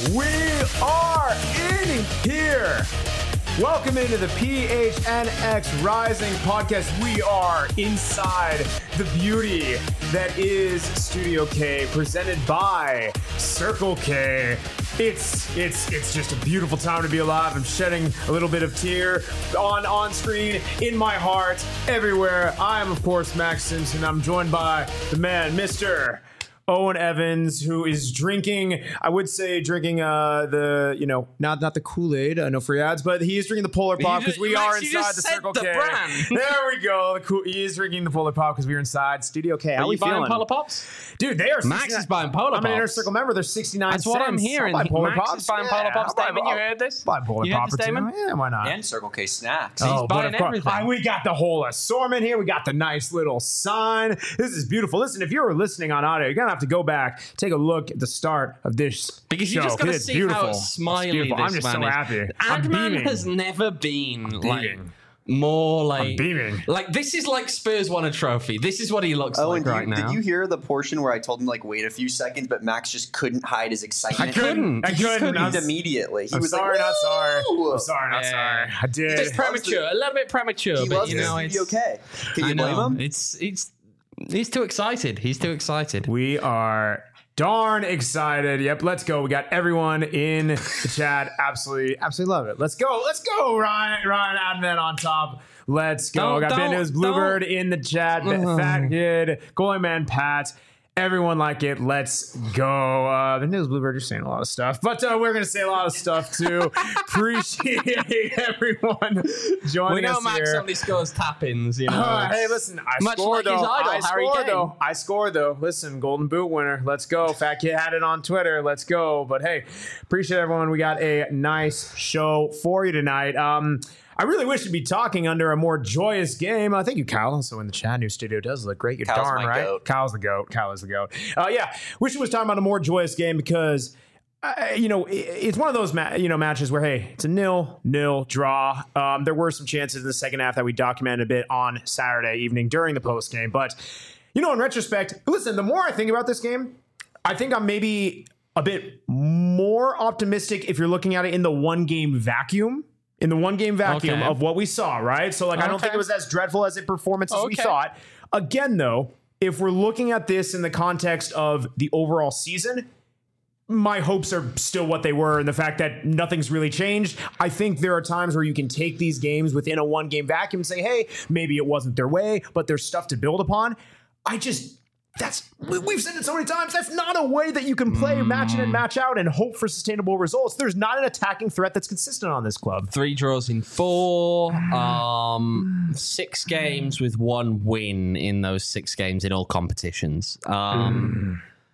We are in here. Welcome into the PHNX Rising podcast. We are inside the beauty that is Studio K, presented by Circle K. It's just a beautiful time to be alive. I'm shedding a little bit of tear on screen, in my heart, everywhere. I am, of course, Max Simpson. I'm joined by the man, Mr. Owen Evans, who is drinking, I would say drinking not the Kool-Aid, no free ads, but he is drinking the Polar Pop because we are inside the Circle K. Brand. There we go. He is drinking the Polar Pop because we are inside Studio K. How are we feeling? Polar Pops? Dude, they are. Max is buying Polar Pops. I'm an Inner Circle member. They're 69 That's cents. what I'm hearing. I'll buy Polar Max Pops. is buying Polar Pops. Damon, you heard this? Buy Polar You heard Pop this, or two. Damon? Yeah, why not? And Circle K snacks. He's but buying of course, everything. we got the whole assortment here. We got the nice little sign. This is beautiful. Listen, if you're listening on audio, you're going to have to go back, take a look at the start of this Because show. you just got to It's see beautiful. how smiley this I'm just man so is. happy. I'm Adman beaming. has never been like beaming. more like I'm beaming. Like this is like Spurs won a trophy. This is what he looks like right now. Did you hear the portion where I told him like wait a few seconds, but Max just couldn't hide his excitement? I couldn't. Immediately. He I'm was sorry, like, not sorry. "Woo!" I'm sorry, not sorry. I did. It's premature, a little bit premature, He but loves you the know Studio it's K. Can I you blame know. him? He's too excited. He's too excited. We are darn excited. Yep, let's go. We got everyone in the chat. Absolutely love it. Let's go, Ryan Adman on top. Let's go. Got Ben News Bluebird in the chat. Fat Kid, Goalie Man Pat. Everyone like it. Let's go. The News Bluebird, you're saying a lot of stuff, but we're going to say a lot of stuff too. Appreciate everyone joining We know us Max here. only scores tap-ins, you know. Hey, listen, I Much scored like his though. idol, Harry Kane. I scored though. Listen, Golden Boot winner. Let's go. Fat Kid had it on Twitter. Let's go. But hey, appreciate everyone. We got a nice show for you tonight. I really wish to be talking under a more joyous game. Thank you, Kyle. Also in the chat, new studio does look great. You're Kyle's darn my right. goat. Kyle's the goat. Kyle is the goat. Yeah, wish it was talking about a more joyous game because it's one of those matches where, hey, it's a 0-0 draw. There were some chances in the second half that we documented a bit on Saturday evening during the post game. But, in retrospect, listen, the more I think about this game, I think I'm maybe a bit more optimistic if you're looking at it in the one-game vacuum. In the one-game vacuum of what we saw, right? So, I don't think it was as dreadful as a performance as we thought. Again, though, if we're looking at this in the context of the overall season, my hopes are still what they were, and the fact that nothing's really changed. I think there are times where you can take these games within a one-game vacuum and say, hey, maybe it wasn't their way, but there's stuff to build upon. We've said it so many times, that's not a way that you can play match in and match out and hope for sustainable results. There's not an attacking threat that's consistent on this club. 3 draws in 4, 6 games with 1 win in those 6 games in all competitions. We're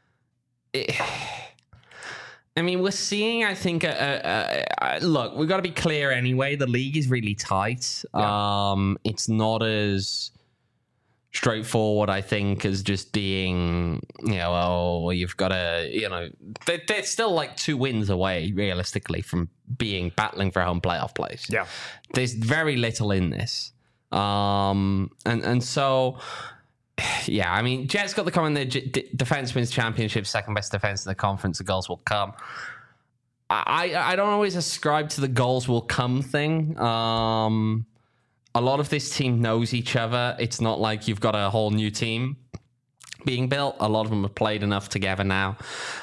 seeing, I think, look, we've got to be clear anyway. The league is really tight. Yeah. It's not as straightforward, I think, as just being, you've got to, they're still like 2 wins away, realistically, from battling for a home playoff place. Yeah. There's very little in this. And so, yeah, Jets got the comment that defense wins championship, second best defense in the conference, the goals will come. I don't always ascribe to the goals will come thing. A lot of this team knows each other. It's not like you've got a whole new team being built. A lot of them have played enough together now.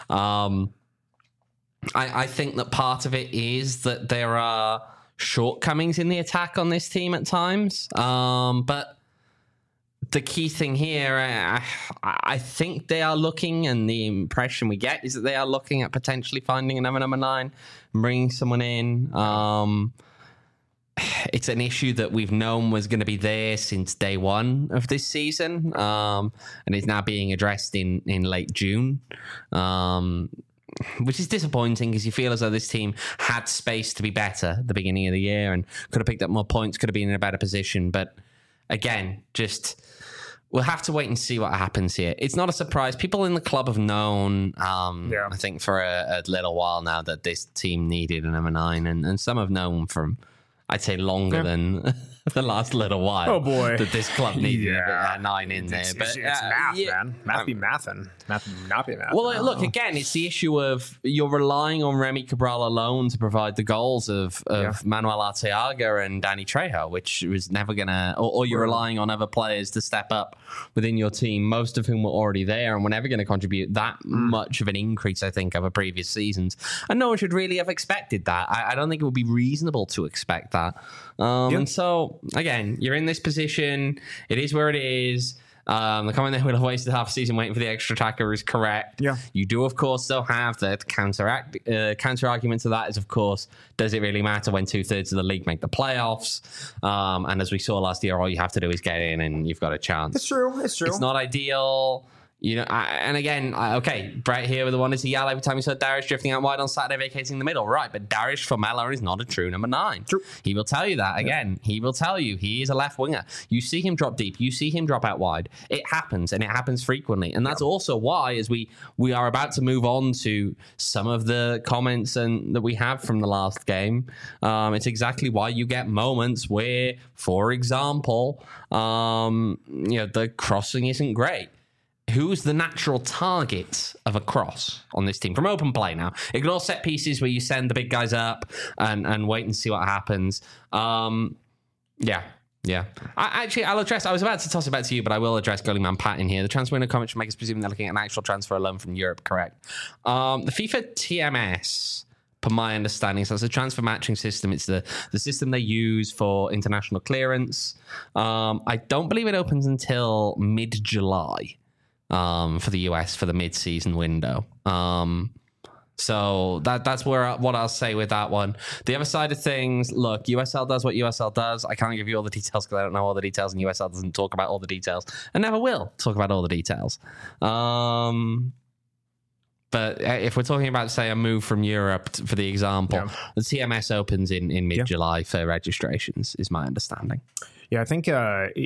I think that part of it is that there are shortcomings in the attack on this team at times. But the key thing here, I think they are looking, and the impression we get is that they are looking at potentially finding another number 9 and bringing someone in. It's an issue that we've known was going to be there since day one of this season, and is now being addressed in late June, which is disappointing because you feel as though this team had space to be better at the beginning of the year and could have picked up more points, could have been in a better position. But again, we'll have to wait and see what happens here. It's not a surprise. People in the club have known, I think, for a little while now that this team needed a number 9, and some have known from, I'd say, longer than the last little while. Oh, boy. That this club needed a 9 in there. It's But math, man. Math be mathin'. Math not be math. Well, look, again, it's the issue of you're relying on Remy Cabral alone to provide the goals of Manuel Arteaga and Danny Trejo, which was never going to... Or you're relying on other players to step up within your team, most of whom were already there and were never going to contribute that much of an increase, I think, over previous seasons. And no one should really have expected that. I don't think it would be reasonable to expect that. And so, again, you're in this position. It is where it is. The comment that we'll have wasted half a season waiting for the extra attacker is correct. Yeah. You do, of course, still have the counter argument to that is, of course, does it really matter when 2/3 of the league make the playoffs? And as we saw last year, all you have to do is get in and you've got a chance. It's true. It's true. It's not ideal. You know, and again, okay, Brett here with the one to yell every time he saw Darius drifting out wide on Saturday, vacating the middle. Right, but Darius Formella is not a true number 9. True. He will tell you that. Again, he will tell you he is a left winger. You see him drop deep. You see him drop out wide. It happens, and it happens frequently. And that's also why, as we are about to move on to some of the comments that we have from the last game, it's exactly why you get moments where, for example, the crossing isn't great. Who's the natural target of a cross on this team from open play now? Ignore set pieces where you send the big guys up and wait and see what happens. I'll address. I was about to toss it back to you, but I will address goalie man Pat in here. The transfer window comment should make us presume they're looking at an actual transfer alone from Europe. Correct. The FIFA TMS, per my understanding, so it's a transfer matching system. It's the system they use for international clearance. I don't believe it opens until mid-July. For the US for the mid-season window. So that's what I'll say with that one. The other side of things, look, USL does what USL does. I can't give you all the details because I don't know all the details, and USL doesn't talk about all the details and never will talk about all the details. But if we're talking about, say, a move from Europe, for the example, the TMS opens in mid-July for registrations, is my understanding. Yeah, I think,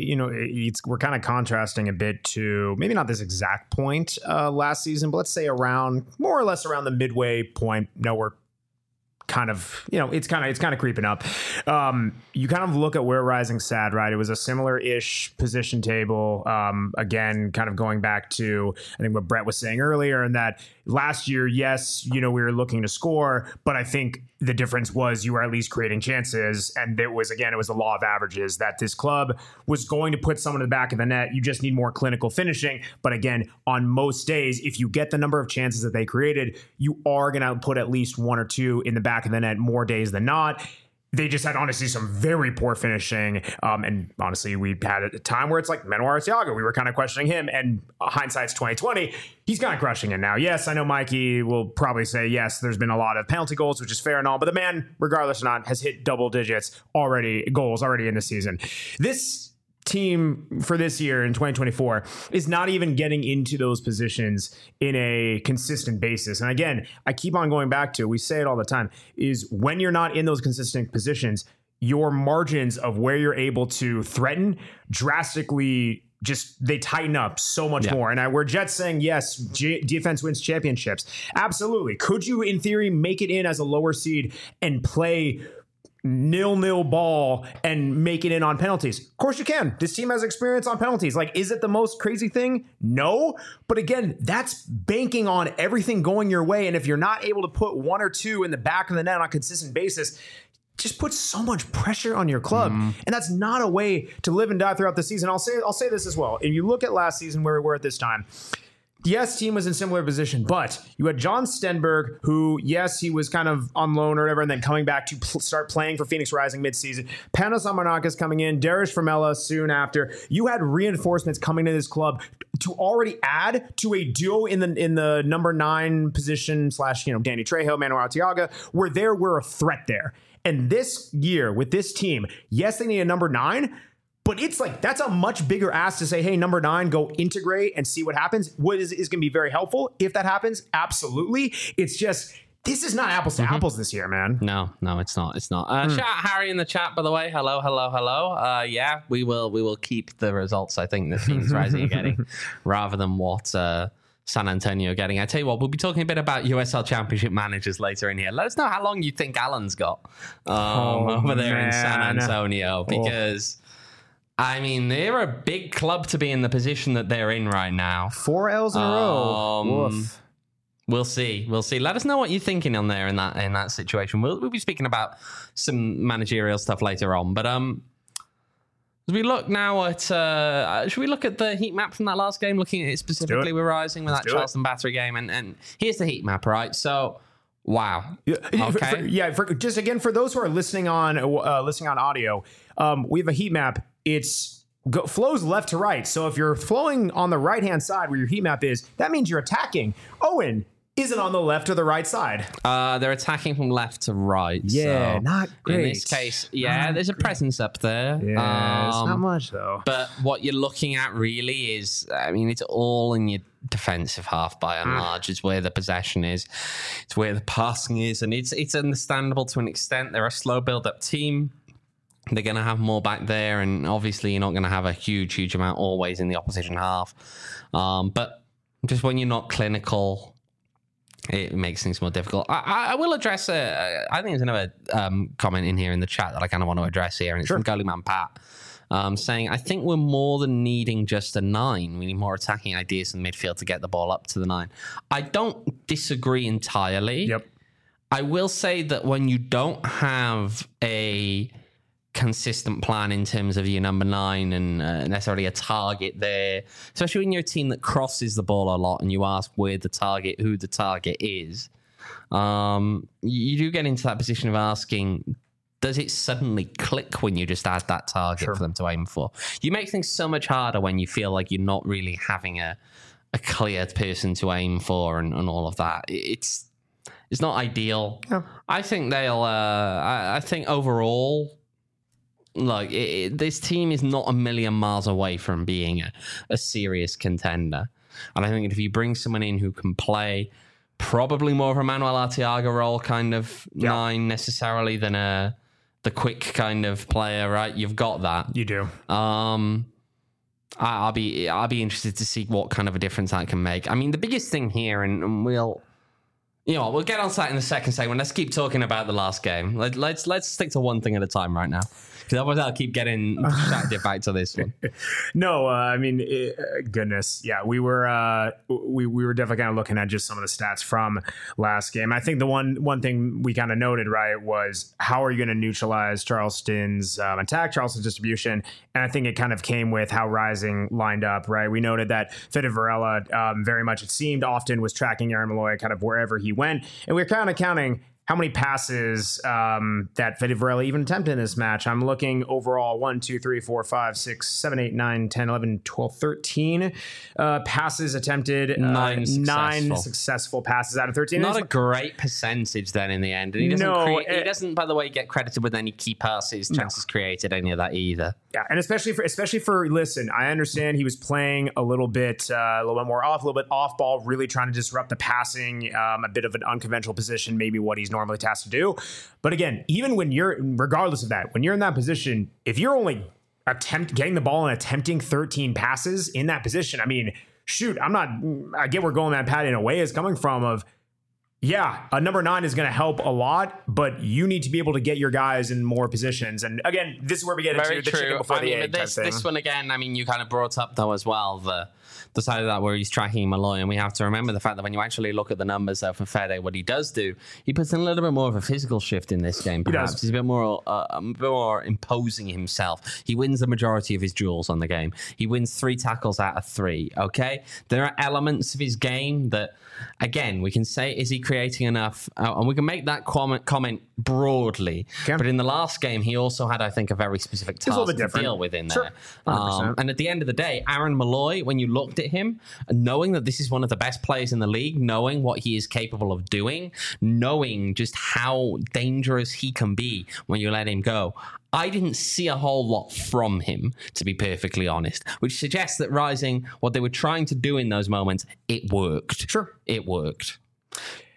we're kind of contrasting a bit to maybe not this exact point last season, but let's say more or less around the midway point. We're kind of, it's kind of creeping up. You kind of look at where Rising sat, right? It was a similar-ish position table. Again, kind of going back to, I think, what Brett was saying earlier, and that last year, yes, we were looking to score, but I think the difference was you were at least creating chances. And it was the law of averages that this club was going to put someone in the back of the net. You just need more clinical finishing. But again, on most days, if you get the number of chances that they created, you are going to put at least 1 or 2 in the back of the net more days than not. They just had, honestly, some very poor finishing. And honestly, we had a time where it's like Manuel Arteaga. We were kind of questioning him. And hindsight's 2020. He's kind of crushing it now. Yes, I know Mikey will probably say, yes, there's been a lot of penalty goals, which is fair and all. But the man, regardless or not, has hit double digits goals already in the season. This team for this year in 2024 is not even getting into those positions in a consistent basis. And again, I keep on going back to, we say it all the time, is when you're not in those consistent positions, your margins of where you're able to threaten drastically they tighten up so much more. And we're Jets saying, yes, defense wins championships. Absolutely. Could you, in theory, make it in as a lower seed and play 0-0 ball and make it in on penalties? Of course you can. This team has experience on penalties. Like, is it the most crazy thing? No. But again, that's banking on everything going your way. And if you're not able to put 1 or 2 in the back of the net on a consistent basis, just puts so much pressure on your club. And that's not a way to live and die throughout the season. I'll say this as well. If you look at last season where we were at this time, yes, team was in similar position, but you had John Stenberg, who, yes, he was kind of on loan or whatever, and then coming back to start playing for Phoenix Rising midseason. Panos Amarnakas coming in, Darius Formella soon after. You had reinforcements coming to this club to already add to a duo in the number 9 position / Danny Trejo, Manuel Arteaga, where there were a threat there. And this year with this team, yes, they need a number 9, but it's like, that's a much bigger ask to say, hey, number 9, go integrate and see what happens. What is going to be very helpful if that happens? Absolutely. It's just, this is not apples to apples this year, man. No, it's not. Shout out Harry in the chat, by the way. Hello. Yeah, we will keep the results, I think, that Phoenix Rising are getting rather than what San Antonio getting. I tell you what, we'll be talking a bit about USL Championship managers later in here. Let us know how long you think Alan's got over there in San Antonio, because I mean, they're a big club to be in the position that they're in right now. 4 L's in a row. Woof. We'll see. Let us know what you're thinking on there in that situation. We'll be speaking about some managerial stuff later on, but as we look now at, should we look at the heat map from that last game, looking at it specifically with Rising, with that Charleston Battery game? And here's the heat map, right? So, wow. Okay. Just again, for those who are listening on audio, we have a heat map. It's flows left to right. So if you're flowing on the right-hand side where your heat map is, that means you're attacking. Owen isn't on the left or the right side. They're attacking from left to right. Yeah, so not great. In this case, there's a presence up there. Yeah, it's not much though. But what you're looking at really is, I mean, it's all in your defensive half by and large. It's where the possession is. It's where the passing is. And it's understandable to an extent. They're a slow build-up team. They're going to have more back there. And obviously, you're not going to have a huge amount always in the opposition half. But just when you're not clinical, it makes things more difficult. I will address I think there's another comment in here in the chat that I kind of want to address here, and it's from Goalie Pat, saying, I think we're more than needing just a 9. We need more attacking ideas in the midfield to get the ball up to the 9. I don't disagree entirely. Yep. I will say that when you don't have a consistent plan in terms of your number 9 and necessarily a target there, especially when you're a team that crosses the ball a lot and you ask who the target is, you do get into that position of asking, does it suddenly click when you just add that target for them to aim for? You make things so much harder when you feel like you're not really having a clear person to aim for and all of that. It's not ideal. Yeah. I think I think overall, like, this team is not a million miles away from being a serious contender. And I think if you bring someone in who can play probably more of a Manuel Arteaga role kind of 9 necessarily than the quick kind of player, right? You've got that. You do. I'll be interested to see what kind of a difference that can make. I mean, the biggest thing here, and we'll get on to that in the second segment. Let's keep talking about the last game. Let's stick to one thing at a time right now, because otherwise I'll keep getting distracted back to this one. No, I mean, goodness, yeah, we were definitely kind of looking at just some of the stats from last game. I think the one thing we kind of noted, right, was how are you going to neutralize Charleston's attack, Charleston's distribution, and I think it kind of came with how Rising lined up, right? We noted that Fede Varela very much, it seemed, often was tracking Aaron Malloy kind of wherever he went, and we were kind of counting how many passes that Fede Varela even attempted in this match. I'm looking overall 1, 2, 3, 4, 5, 6, 7, 8, 9, 10, 11, 12, 13 passes attempted. 9 successful passes out of 13. Not a great percentage then in the end. And he doesn't, by the way, get credited with any key passes, chances created, any of that either. Yeah, and especially for listen, I understand he was playing a little bit more off, a little bit off ball, really trying to disrupt the passing, a bit of an unconventional position, maybe what he's normally tasked to do. But again, even regardless of that, when you're in that position, if you're only getting the ball and attempting 13 passes in that position, I mean, shoot, I get where Goalie Man Pat in a way is coming from of, yeah, a number 9 is going to help a lot, but you need to be able to get your guys in more positions. And again, this is where we get into the chicken before the egg type thing. This one again, I mean, you kind of brought up though as well, the side of that where he's tracking Malloy, and we have to remember the fact that when you actually look at the numbers though for Fede, what he does do, he puts in a little bit more of a physical shift in this game. Perhaps he's a bit more imposing himself. He wins the majority of his duels on the game. He wins 3 tackles out of 3. Okay, there are elements of his game that, again, we can say, is he creating enough? And we can make that comment broadly. Okay. But in the last game, he also had, I think, a very specific task to deal with in there. Sure. And at the end of the day, Aaron Malloy, when you looked at him, knowing that this is one of the best players in the league, knowing what he is capable of doing, knowing just how dangerous he can be when you let him go, I didn't see a whole lot from him, to be perfectly honest, which suggests that Rising, what they were trying to do in those moments, it worked. Sure. It worked.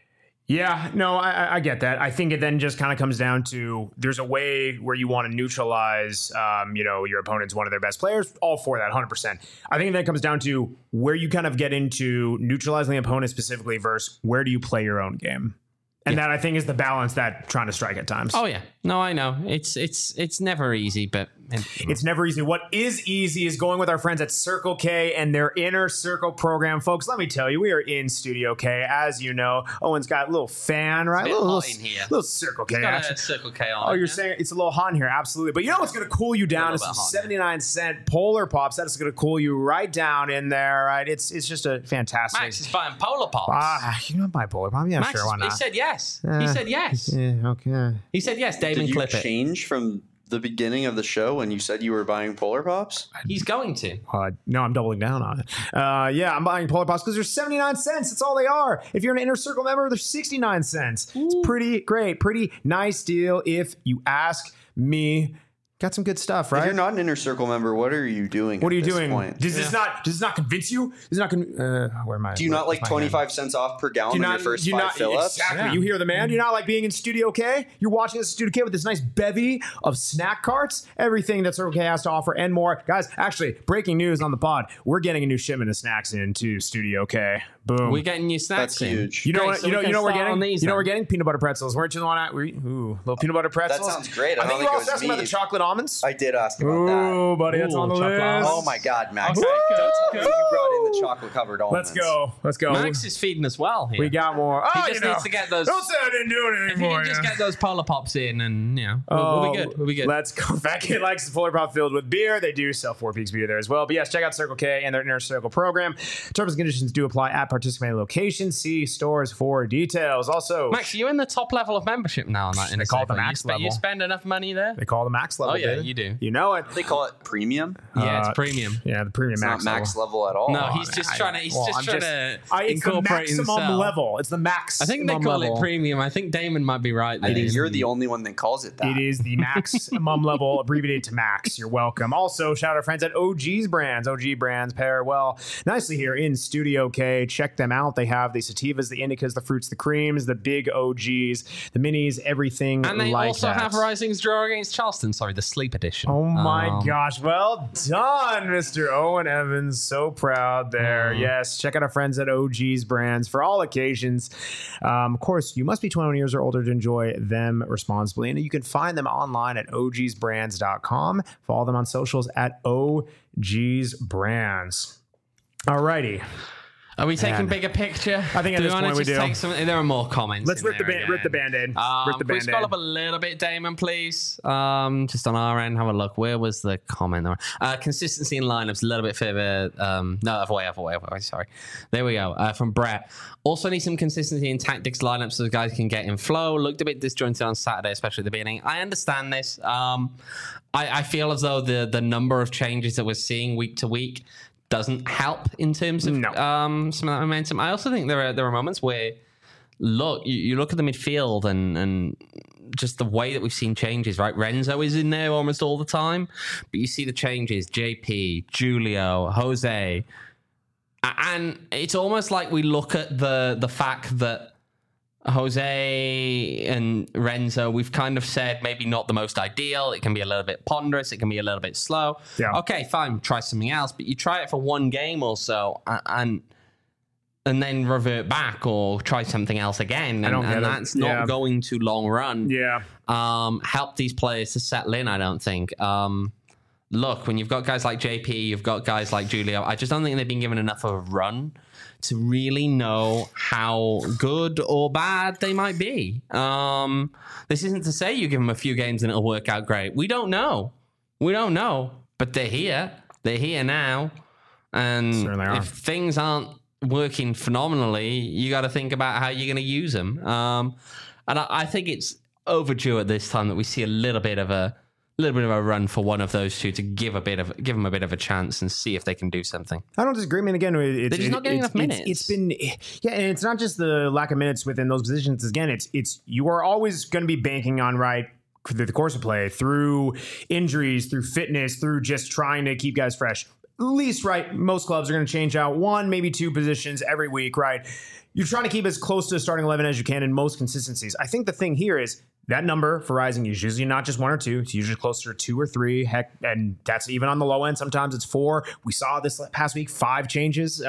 Yeah, no, I get that. I think it then just kind of comes down to there's a way where you want to neutralize, your opponent's one of their best players. All for that, 100%. I think that comes down to where you kind of get into neutralizing the opponent specifically versus where do you play your own game. And that I think is the balance that trying to strike at times. Oh yeah, no, I know it's never easy, but it's never easy. What is easy is going with our friends at Circle K and their Inner Circle program, folks. Let me tell you, we are in Studio K, as you know. Owen's got a little fan, right? It's a bit hot in here. Little Circle K. It's got action. a Circle K on. Oh, you're saying it's a little hot in here, absolutely. But you know what's going to cool you down is some 79-cent Polar Pops. That is going to cool you right down in there, right? It's just a fantastic. Max is buying Polar Pops. You don't buy Polar Pop? Yeah, Max sure, why not? He said yes. He said yes. Yeah, okay. He said yes. Damon, Did you clip it. change from the beginning of the show when you said you were buying Polar Pops? He's going to. No, I'm doubling down on it. Yeah, I'm buying Polar Pops because they're 79 cents. That's all they are. If you're an Inner Circle member, they're 69 cents. It's pretty great. Pretty nice deal if you ask me. Got some good stuff, right? If you're not an Inner Circle member, what are you doing? What are you doing? Point? Does this not convince you? Does not where am I? Do you not like 25 cents off per gallon on your first five fill-ups? Exactly. Yeah. You hear the man. Do you not like being in Studio K? You're watching this in Studio K with this nice bevy of snack carts, everything that Circle K has to offer and more. Guys, actually, breaking news on the pod. We're getting a new shipment of snacks into Studio K. Boom. We're getting new snacks. That's huge. You know Great, what? so You know we can what we're start getting. on these You know then. we're getting peanut butter pretzels. Weren't you the one? Little peanut butter pretzels. That sounds great. I think don't you think it also was asked about me. the chocolate almonds. I did ask about that. Ooh, buddy, that's on the chocolate list. almonds. Oh my God, Max! Okay, Don't good, tell me you brought in the chocolate-covered almonds. Let's go. Max is feeding us well here. We got more. Oh, He just needs to get those. Don't say I didn't do anything If you for can just you. get those Polar Pops in, and we'll be good. We'll be good. Let's go. Fat Kid likes the Polar Pop filled with beer. They do sell Four Peaks beer there as well. But yes, check out Circle K and their Inner Circle program. Terms and conditions do apply at participating locations. See stores for details. Also, Max, you're in the top level of membership now on that. They call it the max level. You spend enough money there. they call it the max level. Oh yeah, baby. you do. You know it. They call it premium. Yeah, it's premium. Yeah, the premium It's max not max level. level at all. No, he's just trying to. He's I'm trying to it's the incorporate maximum himself. level. It's the max. I think they call level. it premium. I think Damon might be right there. I think you're the only one that calls it that. It is the maximum level, abbreviated to max. You're welcome. Also, shout out our friends at OG's Brands. OG Brands pair well nicely here in Studio K. Check them out. They have the sativas, the indicas, the fruits, the creams, the big OGs, the minis, everything And they like also that. have Rising's draw against Charleston. Sorry, the sleep edition. Oh my gosh. Well done, Mr. Owen Evans. So proud there. Yes. Check out our friends at OG's Brands for all occasions. Of course, you must be 21 years or older to enjoy them responsibly. And you can find them online at ogsbrands.com. Follow them on socials at OG's Brands. Alrighty. Are we taking Man. bigger picture? I think at do this we wanna point we just do. take some? There are more comments. Let's in rip the there rip the again. Band-Aid. Rip the Can we scroll Band-Aid. up a little bit, Damon, please? Just on our end, have a look. Where was the comment? Consistency in lineups, a little bit further. No, other way. Sorry. There we go. From Brett. Also need some consistency in tactics lineups so the guys can get in flow. Looked a bit disjointed on Saturday, especially at the beginning. I understand this. I feel as though the number of changes that we're seeing week to week doesn't help in terms of some of that momentum. I also think there are moments where you look at the midfield and just the way that we've seen changes, right? Renzo is in there almost all the time, but you see the changes, JP, Julio, Jose, and it's almost like we look at the fact that Jose and Renzo, we've kind of said maybe not the most ideal. It can be a little bit ponderous. It can be a little bit slow. Yeah. Okay, fine. Try something else. But you try it for one game or so and then revert back or try something else again. And that's not going to long run. Yeah. Help these players to settle in, I don't think. Look, when you've got guys like JP, you've got guys like Julio, I just don't think they've been given enough of a run to really know how good or bad they might be. This isn't to say you give them a few games and it'll work out great. We don't know. But they're here. They're here now. And Certainly are. if things aren't working phenomenally, you got to think about how you're going to use them. And I think it's overdue at this time that we see a little bit of a run for one of those two to give them a bit of a chance and see if they can do something. I don't disagree. I mean, again, They're just not getting enough minutes. It's been, and it's not just the lack of minutes within those positions. Again, it's you are always going to be banking on through the course of play, through injuries, through fitness, through just trying to keep guys fresh. least, right, most clubs are going to change out 1, maybe 2 positions every week, right? You're trying to keep as close to the starting 11 as you can in most consistencies. I think the thing here is that number for Rising is usually not just 1 or 2. It's usually closer to 2 or 3. Heck, and that's even on the low end. Sometimes it's 4. We saw this past week 5 changes.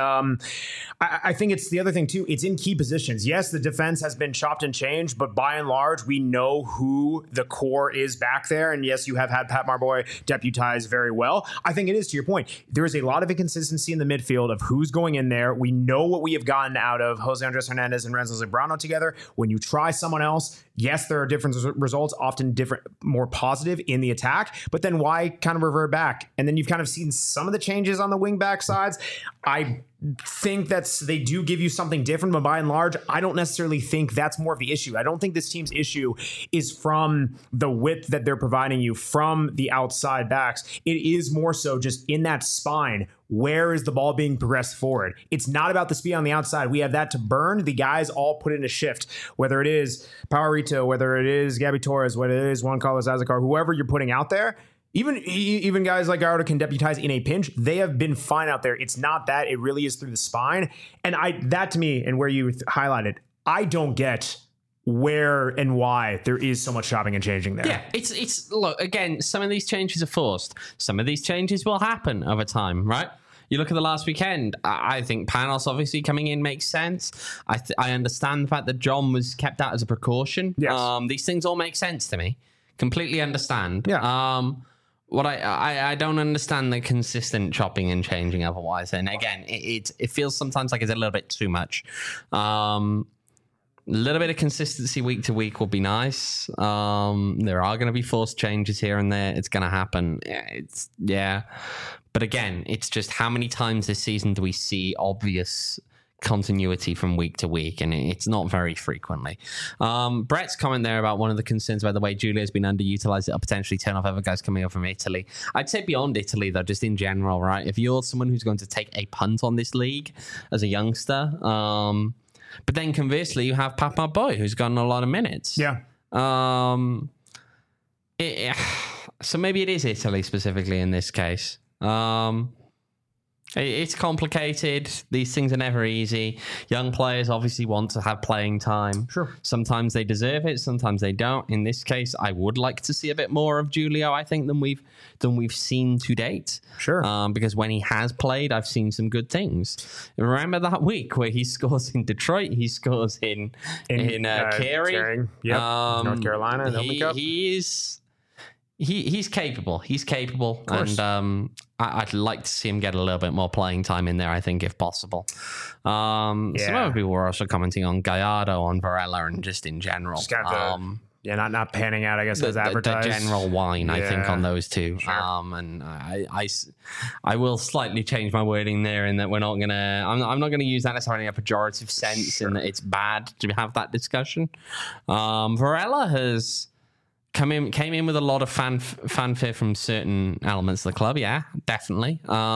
I think it's the other thing too. It's in key positions. Yes, the defense has been chopped and changed, but by and large, we know who the core is back there. And yes, you have had Pat Marboy deputize very well. I think it is, to your point, there is a lot of inconsistency in the midfield of who's going in there. We know what we have gotten out of Jose Andres Hernandez and Renzo Zambrano together. When you try someone else, yes, there are different results, often different, more positive in the attack, but then why kind of revert back? And then you've kind of seen some of the changes on the wing back sides. I think they do give you something different, but by and large, I don't necessarily think that's more of the issue. I don't think this team's issue is from the width that they're providing you from the outside backs. It is more so just in that spine. Where is the ball being progressed forward? It's not about the speed on the outside. We have that to burn. The guys all put in a shift, whether it is Powerito, whether it is Gabby Torres, whether it is Juan Carlos Azúcar, whoever you're putting out there. Even guys like Gallardo can deputize in a pinch. They have been fine out there. It's not that. It really is through the spine. And that to me, and where you highlighted, I don't get where and why there is so much chopping and changing there. Yeah, it's look, again, some of these changes are forced. Some of these changes will happen over time, right? You look at the last weekend, I think Panos obviously coming in makes sense. I understand the fact that John was kept out as a precaution. Yes. These things all make sense to me. Completely understand. Yeah. What I don't understand the consistent chopping and changing otherwise. And again, it feels sometimes like it's a little bit too much. A little bit of consistency week to week will be nice. There are going to be forced changes here and there. It's going to happen. But again, it's just how many times this season do we see obvious continuity from week to week, and it's not very frequently. Brett's comment there about one of the concerns about the way Julia has been underutilized, it'll potentially turn off other guys coming up from Italy. I'd say beyond Italy, though, just in general, right? If you're someone who's going to take a punt on this league as a youngster, but then conversely, you have Papa Boy, who's gotten a lot of minutes. Yeah. So maybe it is Italy specifically in this case. It's complicated. These things are never easy. Young players obviously want to have playing time. Sure. Sometimes they deserve it. Sometimes they don't. In this case, I would like to see a bit more of Julio, I think, than we've seen to date. Sure. Because when he has played, I've seen some good things. Remember that week where he scores in Detroit? He scores in Cary. Yep. North Carolina. He's capable. He's capable, and I'd like to see him get a little bit more playing time in there. I think, if possible. Some other people were also commenting on Gallardo, on Varela, and just in general. Not panning out, I guess, as advertised. The general whine, I think, on those two. Sure. And I will slightly change my wording there in that we're not gonna. I'm not gonna use that necessarily in a pejorative sense, in that it's bad to have that discussion. Varela has came in with a lot of fanfare from certain elements of the club. Yeah, definitely.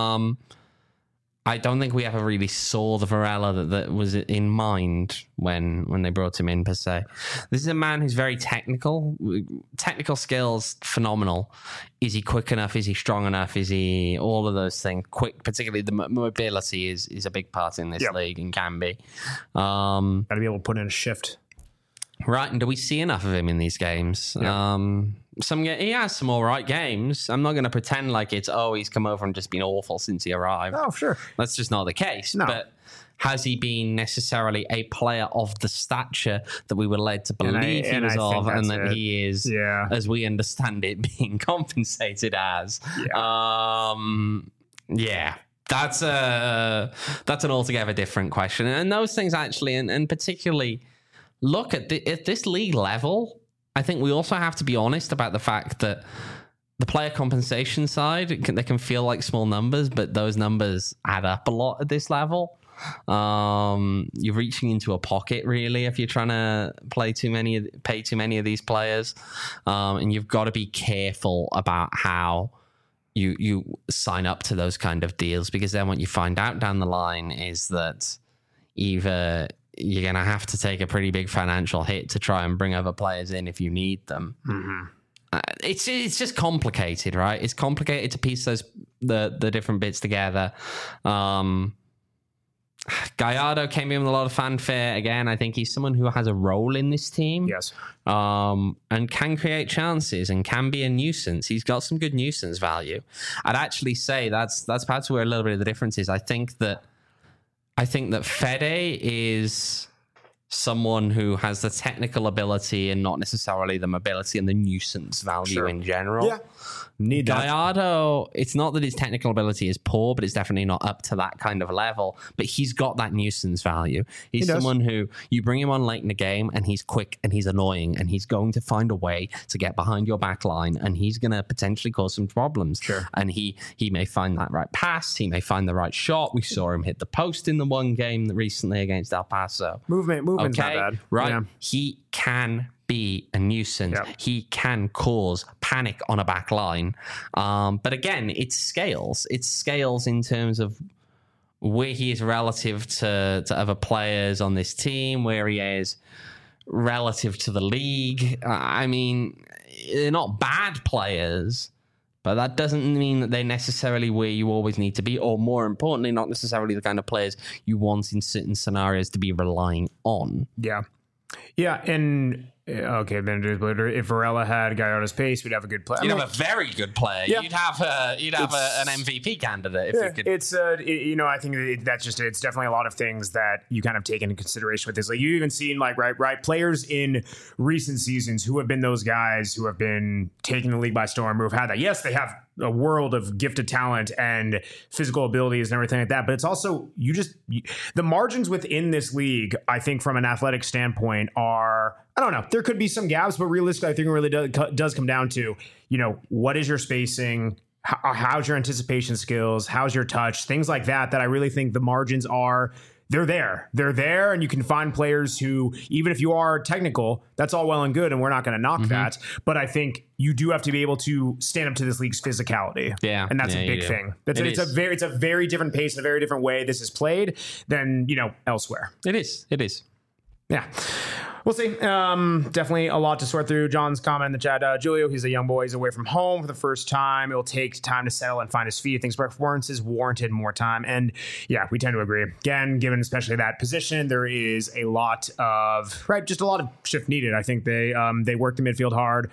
I don't think we ever really saw the Varela that was in mind when they brought him in, per se. This is a man who's very technical. Technical skills, phenomenal. Is he quick enough? Is he strong enough? Is he all of those things? Quick, particularly the mobility is a big part in this league and can be. Got to be able to put in a shift. Right, and do we see enough of him in these games? Yeah. He has some all right games. I'm not going to pretend like he's come over and just been awful since he arrived. Oh, sure. That's just not the case. No. But has he been necessarily a player of the stature that we were led to believe he was of, and that he is, as we understand it, being compensated as? That's an altogether different question. And those things actually, and particularly, look at this league level. I think we also have to be honest about the fact that the player compensation side, they can feel like small numbers, but those numbers add up a lot at this level. You're reaching into a pocket, really, if you're trying to pay too many of these players, and you've got to be careful about how you sign up to those kind of deals, because then what you find out down the line is that either you're going to have to take a pretty big financial hit to try and bring other players in if you need them. Mm-hmm. It's just complicated, right? It's complicated to piece those the different bits together. Gallardo came in with a lot of fanfare. Again, I think he's someone who has a role in this team. Yes. And can create chances and can be a nuisance. He's got some good nuisance value. I'd actually say that's perhaps where a little bit of the difference is. I think that Fede is someone who has the technical ability and not necessarily the mobility and the nuisance value in general. Yeah. Need that. Gallardo, it's not that his technical ability is poor, but it's definitely not up to that kind of level. But he's got that nuisance value. He's someone who you bring him on late in the game and he's quick and he's annoying and he's going to find a way to get behind your back line and he's going to potentially cause some problems. Sure. And he may find that right pass. He may find the right shot. We saw him hit the post in the one game recently against El Paso. Movement's not bad. Right. Yeah. He can be a nuisance. Yep. He can cause panic on a back line. But again, it's scales. It's scales in terms of where he is relative to other players on this team, where he is relative to the league. I mean, they're not bad players, but that doesn't mean that they're necessarily where you always need to be, or more importantly, not necessarily the kind of players you want in certain scenarios to be relying on. Yeah. Yeah, and okay, then if Varela had Gallardo's pace, we'd have a good player. You'd have a very good player. Yeah. You'd have an MVP candidate. If you could. It's I think that's just it's definitely a lot of things that you kind of take into consideration with this. Like you even seen right players in recent seasons who have been those guys who have been taking the league by storm, who have had that. Yes, they have a world of gifted talent and physical abilities and everything like that. But it's also the margins within this league, I think from an athletic standpoint are, I don't know, there could be some gaps, but realistically, I think it really does come down to, what is your spacing? How's your anticipation skills? How's your touch? Things like that I really think the margins are, they're there, and you can find players who, even if you are technical, that's all well and good, and we're not going to knock that. But I think you do have to be able to stand up to this league's physicality. Yeah, and that's a big thing. It's a very different pace and a very different way this is played than elsewhere. It is. Yeah. We'll see. Definitely a lot to sort through. John's comment in the chat, Julio, he's a young boy. He's away from home for the first time. It will take time to settle and find his feet. I think his performances warranted more time. And yeah, we tend to agree. Again, given especially that position, there is a lot of, just a lot of shift needed. I think they work the midfield hard.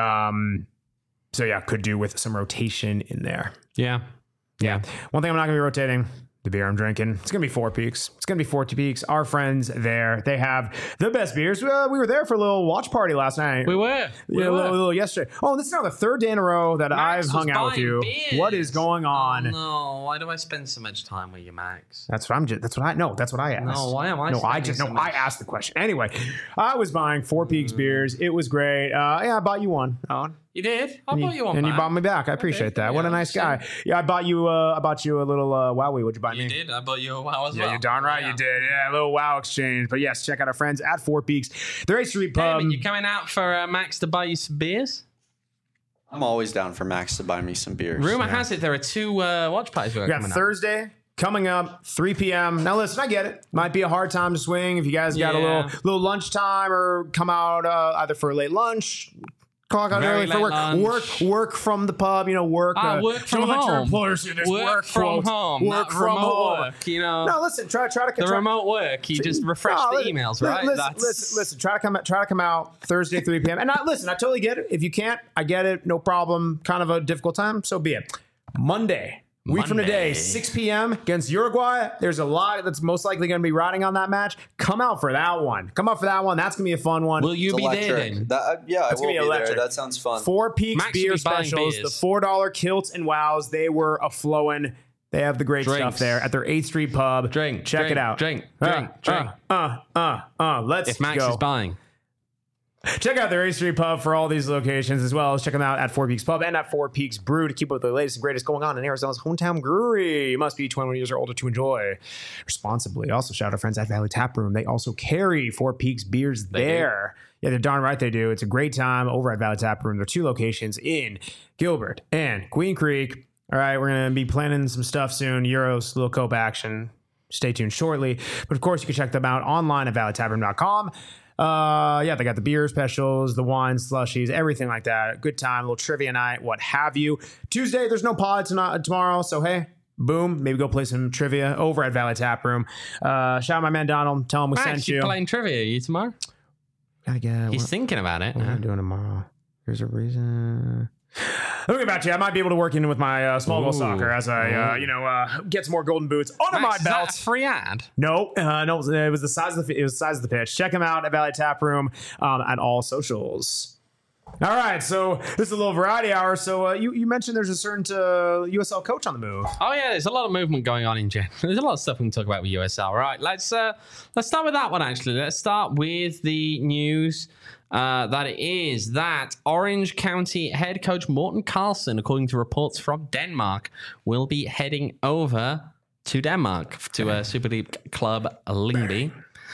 So yeah, could do with some rotation in there. Yeah. One thing I'm not going to be rotating, the beer I'm drinking. It's going to be Four Peaks. Our friends there, they have the best beers. We were there for a little watch party last night. We were. A little yesterday. Oh, this is now the third day in a row that I've hung out with you. Beers. What is going on? Oh, no, why do I spend so much time with you, Max? That's what I asked. No, why am I? I asked the question. Anyway, I was buying Four Peaks beers. It was great. I bought you one. You did? I bought you one. And you bought me back. I appreciate that. What a nice guy. Yeah, I bought you a little Wowie. What'd you buy me? You did? I bought you a Wow as well. Yeah, you're darn right you did. Yeah, a little Wow exchange. But yes, check out our friends at Four Peaks. They're a street pub. Damon, you coming out for Max to buy you some beers? I'm always down for Max to buy me some beers. Rumor has it there are two watch parties we got Thursday coming up, 3 p.m. Now listen, I get it. Might be a hard time to swing if you guys got a little lunchtime or come out either for a late lunch. Clock out early for work from the pub, work. Work from home. Work from home. Work from home. No, listen. Try to the remote work. You just refresh the emails, right? Listen. Try to come out Thursday 3 p.m. And listen, I totally get it. If you can't, I get it. No problem. Kind of a difficult time. So be it. Monday. Week from today, 6 p.m. against Uruguay. There's a lot that's most likely going to be riding on that match. Come out for that one. That's going to be a fun one. Will you be there then? I will be there. That sounds fun. Four Peaks beer specials, the $4 kilts and wows. They were a-flowing. They have the great stuff there at their 8th Street pub. Check it out. Drink. Let's go. If Max is buying. Check out their 8th Street Pub for all these locations, as well as check them out at Four Peaks Pub and at Four Peaks Brew to keep up with the latest and greatest going on in Arizona's hometown brewery. You must be 21 years or older to enjoy responsibly. Also, shout out our friends at Valley Tap Room. They also carry Four Peaks beers there. Yeah, they're darn right they do. It's a great time over at Valley Tap Room. There are 2 locations in Gilbert and Queen Creek. All right, we're going to be planning some stuff soon. Euros, little Cope action. Stay tuned shortly. But of course, you can check them out online at valleytaproom.com. Yeah, they got the beer specials, the wine slushies, everything like that. Good time, a little trivia night, what have you. Tuesday, there's no pod tomorrow, so hey, boom, maybe go play some trivia over at Valley Tap Room. Shout out my man Donald, tell him we sent you. Playing trivia, are you tomorrow? Gotta get. He's thinking about it. What am I doing tomorrow? Here's a reason. Let me get back to you. I might be able to work in with my small goal soccer as I, get some more golden boots under my Max, belt. Is that a free ad? No, it was the size of the pitch. Check him out at Valley Tap Room at all socials. All right, so this is a little variety hour. So you mentioned there's a certain USL coach on the move. Oh yeah, there's a lot of movement going on in general. There's a lot of stuff we can talk about with USL. Right, let's start with that one actually. Let's start with the news. That is that Orange County head coach Morten Carlsen, according to reports from Denmark, will be heading over to Denmark to a Super League club, Lyngby.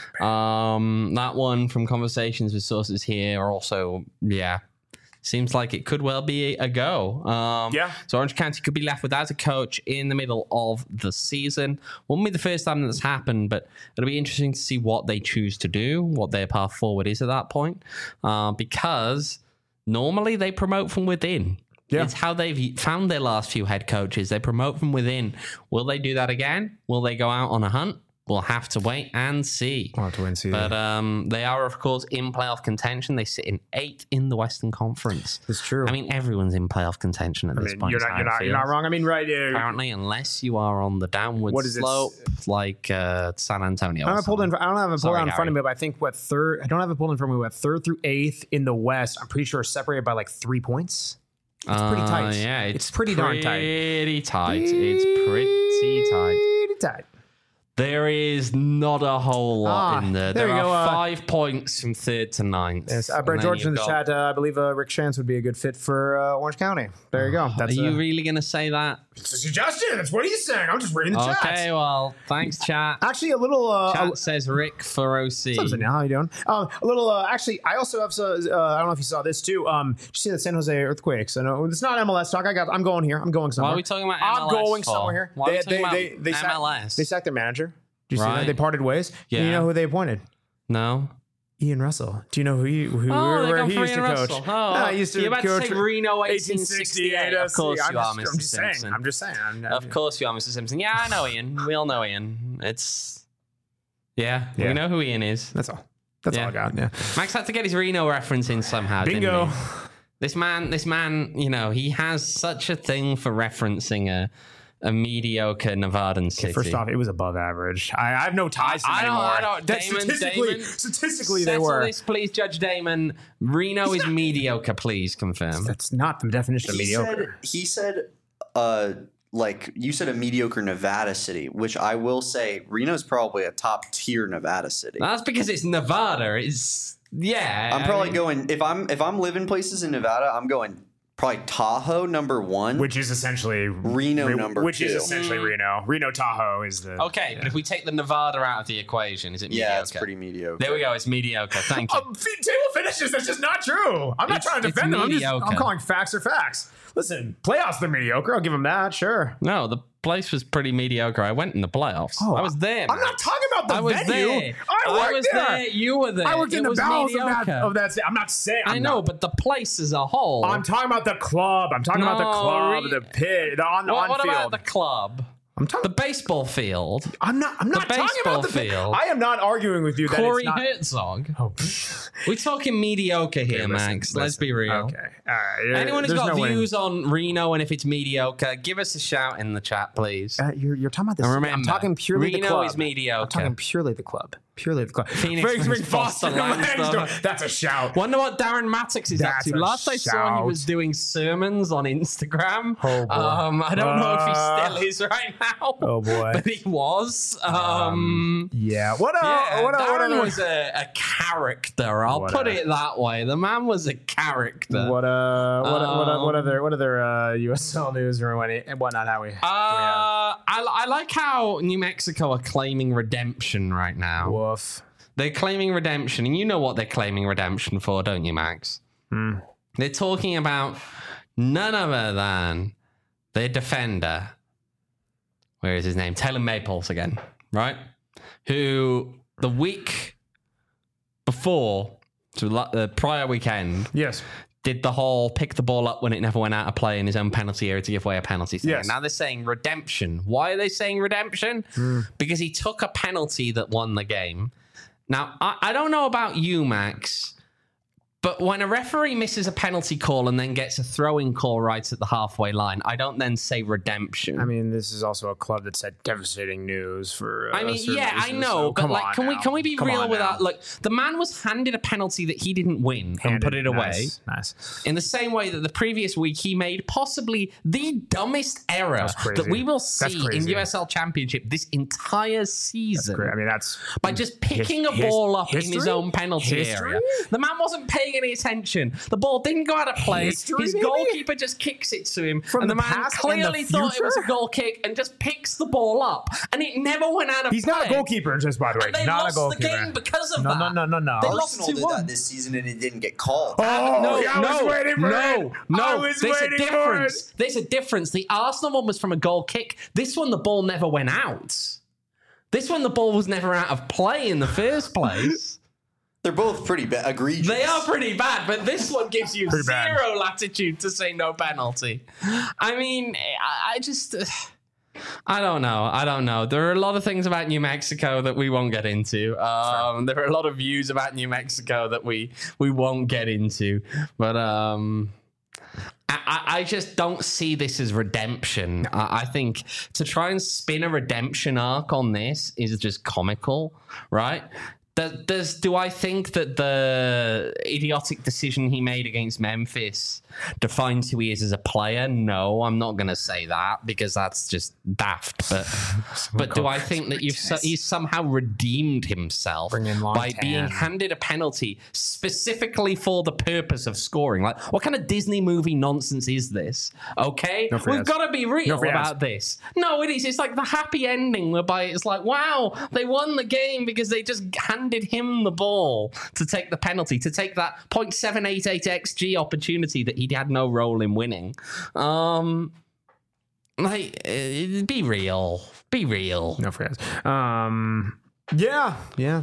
That one from conversations with sources here are also, seems like it could well be a go. So Orange County could be left without a coach in the middle of the season. Won't be the first time that's happened, but it'll be interesting to see what they choose to do, what their path forward is at that point. Because normally they promote from within. Yeah. It's how they've found their last few head coaches. They promote from within. Will they do that again? Will they go out on a hunt? We'll have to wait and see. We'll have to wait and see. But they are, of course, in playoff contention. They sit in 8th in the Western Conference. It's true. I mean, everyone's in playoff contention at this point. You're not wrong. I mean, right. Apparently, unless you are on the downward slope, like San Antonio. I don't have it pulled out in front of me, but I think third. I don't have it pulled in front of me. But 3rd through 8th in the West, I'm pretty sure separated by like 3 points. It's pretty tight. Yeah, it's pretty darn tight. It's pretty tight. There is not a whole lot in there. There are 5 points from 3rd to 9th. Yes, Brett George in the chat. I believe Rick Shantz would be a good fit for Orange County. There you go. Are you really going to say that? It's a suggestion. That's what he's saying. I'm just reading the chat. Okay, well, thanks, chat. Actually, a little... chat says Rick for OC. What's up, how you doing? A little... actually, I also have... I don't know if you saw this, too. Did you see the San Jose Earthquakes? I know it's not MLS talk. I'm going here. I'm going somewhere. Why are we talking about MLS I'm going somewhere here. Why are we talking about MLS? They sacked their manager. Did you see that? They parted ways. Yeah. You know who they appointed? No. Ian Russell. Do you know who he used to coach? Oh, he used to you're about coach to say Reno 1868. Of course you are, Mr. Simpson. I'm just saying. Of course you are, Mr. Simpson. Yeah, I know Ian. We all know Ian. We know who Ian is. That's all. That's all I got. Yeah. Max had to get his Reno reference in somehow. Bingo. Didn't he? This man, he has such a thing for referencing a mediocre Nevadan city. First off, it was above average. I have no ties to them anymore. I don't. Damon, statistically, they were. This, please, Judge Damon. Reno is mediocre. Please confirm. That's not the definition of mediocre. He said, you said a mediocre Nevada city, which I will say Reno's probably a top tier Nevada city. That's because it's Nevada. I'm probably going if I'm living places in Nevada, I'm going. Probably Tahoe number 1, which is essentially Reno number 2, which is essentially Reno. Reno Tahoe is the but if we take the Nevada out of the equation, is it mediocre? Yeah, it's pretty mediocre. There we go. It's mediocre. Thank you. Table finishes. That's just not true. I'm not trying to defend them. I'm calling facts are facts. Listen, playoffs they're mediocre. I'll give them that. Sure. No, the place was pretty mediocre. I went in the playoffs. I was there. I'm not talking about the venue. There. I was there. You were there. I worked in the bowels of that. I'm not saying. I know, but the place as a whole. I'm talking about the club. I'm talking about the club, the pit, the on field. What about the club? The baseball field. I'm not talking about the field. I am not arguing with you. Corey that Herzog. We're talking mediocre here, Max. Let's be real. Okay. All right. Anyone who's got views on Reno and if it's mediocre, give us a shout in the chat, please. You're talking about this. Remember, I'm talking purely the club. Reno is mediocre. I'm talking purely the club. Phoenix Springs, Boston, Langston. That's a shout. Wonder what Darren Mattox is up to. Last I saw, he was doing sermons on Instagram. Oh boy. I don't know if he still is right now. Oh boy. But he was. Yeah. Darren was a character. I'll put it that way. The man was a character. What other USL news or whatnot? How we? I like how New Mexico are claiming redemption right now. Woof. They're claiming redemption, and you know what they're claiming redemption for, don't you, Max? They're talking about none other than their defender. Where is his name? Taylor Maples again, right? Who the week before, so the prior weekend, Yes. did the whole pick the ball up when it never went out of play in his own penalty area to give away a penalty thing. Yes. Now they're saying redemption. Why are they saying redemption? Because he took a penalty that won the game. Now, I don't know about you, Max, but when a referee misses a penalty call and then gets a throwing call right at the halfway line, I don't then say redemption. I mean, this is also a club that said devastating news for. I mean, certain yeah, I reasons, know, so but come like, on can now. we be Come real on with now. that? Look, the man was handed a penalty that he didn't win and Handed. put it away. Nice. In the same way that the previous week he made possibly the dumbest error crazy. that we will That's see in crazy. USL Championship this entire season. Great. I mean, that's By just picking a ball up in his history? own penalty History? area. The man wasn't paying any attention. The ball didn't go out of play. History, His maybe? goalkeeper just kicks it to him. From and the the man past and clearly the thought it was a future? goal kick and just picks the ball up. And it never went out of He's play. not a goalkeeper, just by the way. And they Not lost a goalkeeper. the game because of No, that. no. They lost Arsenal did 2-1. that this season and it didn't get called. Oh, I was waiting for it. I No, was there's a waiting for it. difference. There's a difference. The Arsenal one was from a goal kick. This one, the ball never went out. This one, the ball was never out of play in the first place. They're both pretty egregious. They are pretty bad, but this one gives you Pretty bad. zero latitude to say no penalty. I mean, I just... I don't know. There are a lot of things about New Mexico that we won't get into. There are a lot of views about New Mexico that we won't get into. But I just don't see this as redemption. I think to try and spin a redemption arc on this is just comical, right? Do I think that the idiotic decision he made against Memphis defines who he is as a player? No, I'm not going to say that because that's just daft. But do I think that he's somehow redeemed himself Bring in by Lontan. being handed a penalty specifically for the purpose of scoring? Like, what kind of Disney movie nonsense is this? Okay, No free we've ads. got to be real No free ads. about this. No, it is. It's like the happy ending whereby it's like, wow, they won the game because they just handed him the ball to take the penalty, to take that 0.788 XG opportunity that he had no role in winning. Be real. Be real. No free ads. Yeah.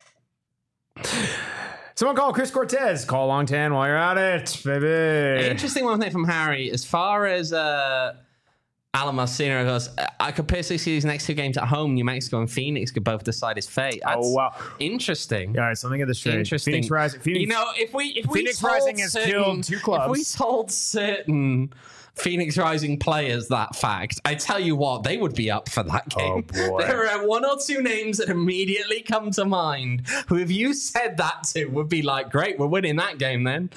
Someone call Chris Cortez. Call Longtan while you're at it, baby. Interesting one thing from Harry. As far as Alan Marcino goes, I could personally see these next two games at home. New Mexico and Phoenix could both decide his fate. That's Oh, wow. interesting. All right, so let me get this straight. Interesting. Phoenix Rising. Phoenix, You know, if we Phoenix told Rising has certain- killed two clubs. If we told certain Phoenix Rising players that fact, I tell you what, they would be up for that game. Oh, boy. There are one or two names that immediately come to mind who, if you said that to, would be like, great, we're winning that game then.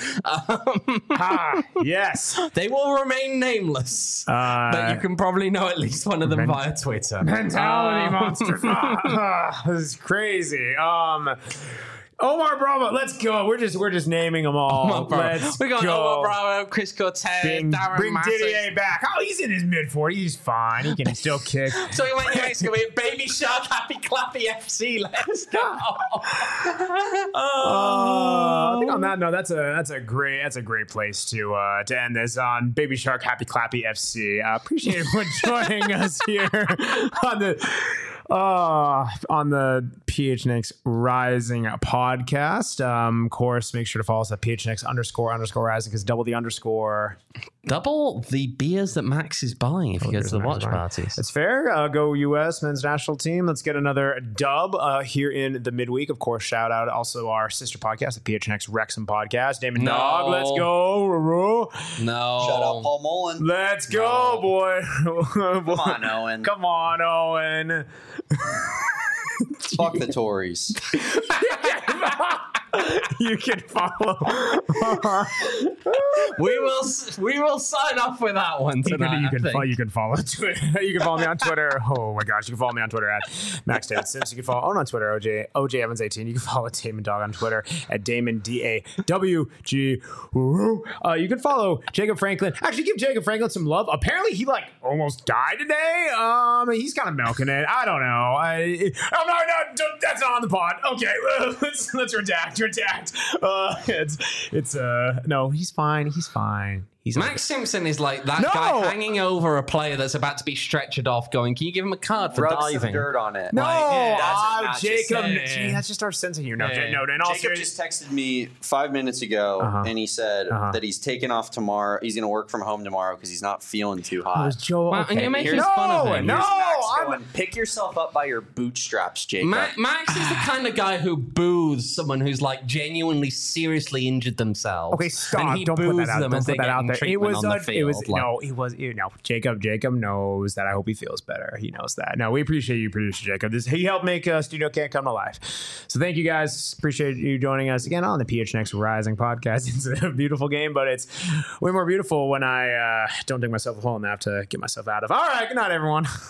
yes. They will remain nameless, but you can probably know at least one of them via Twitter. Mentality monsters. This is crazy. Omar Bravo, let's go. We're just naming them all. Let's We got go. Omar Bravo, Chris Cortez, Darren Bring Massey. Didier back. Oh, he's in his mid-40s. He's fine. He can still kick. So we went to Mexico with Baby Shark, Happy Clappy FC. Let's go. I think on that note, that's a great place to end this on. Baby Shark, Happy Clappy FC. Appreciate everyone joining us here on the PHNX Rising podcast. Of course, make sure to follow us at PHNX __ Rising because double the underscore. Double the beers that Max is buying if you go to the watch parties. It's fair. Go U.S. men's national team. Let's get another dub here in the midweek. Of course, shout out also our sister podcast, the PHNX Wrexham podcast. Damon No. Dog, let's go. No. Shout out Paul Mullen. Let's go, boy. Come on, Owen. Come on, Owen. Fuck the Tories. You can follow. We will sign off with that one tonight. You can follow Twitter. You can follow me on Twitter. Oh my gosh, you can follow me on Twitter at Max David Sims. You can follow Owen on Twitter, OJ Evans 18. You can follow Damon Dog on Twitter at Damon DAWG. You can follow Jacob Franklin. Actually, give Jacob Franklin some love. Apparently, he almost died today. He's kind of milking it. I don't know. That's not on the pod. Okay, let's redact. No, he's fine. He's fine. Max Simpson is like that guy hanging over a player that's about to be stretchered off going, can you give him a card for Rub some diving? dirt on it. No, Doesn't not just Jacob. saying. Gee, that's just our sense of humor. No, Yeah. no. In all Jacob seriousness, just texted me 5 minutes ago, and he said that he's taking off tomorrow. He's going to work from home tomorrow because he's not feeling too it hot. was Joel. Well, and okay. you're making Here's- fun of him. No, Here's Max I'm- going, pick yourself up by your bootstraps, Jacob. Max is the kind of guy who boos someone who's like genuinely seriously injured themselves. Okay, stop! And he Don't put boos that out. them Don't as put they're that out getting there. It treatment was. on the It field. was. like- No, it was. Jacob knows that. I hope he feels better. He knows that. No, we appreciate you, producer Jacob. He helped make Studio Can't come to life. So thank you guys. Appreciate you joining us again on the PHNX Rising podcast. It's a beautiful game, but it's way more beautiful when I don't dig myself a hole enough to get myself out of. All right, good night, everyone.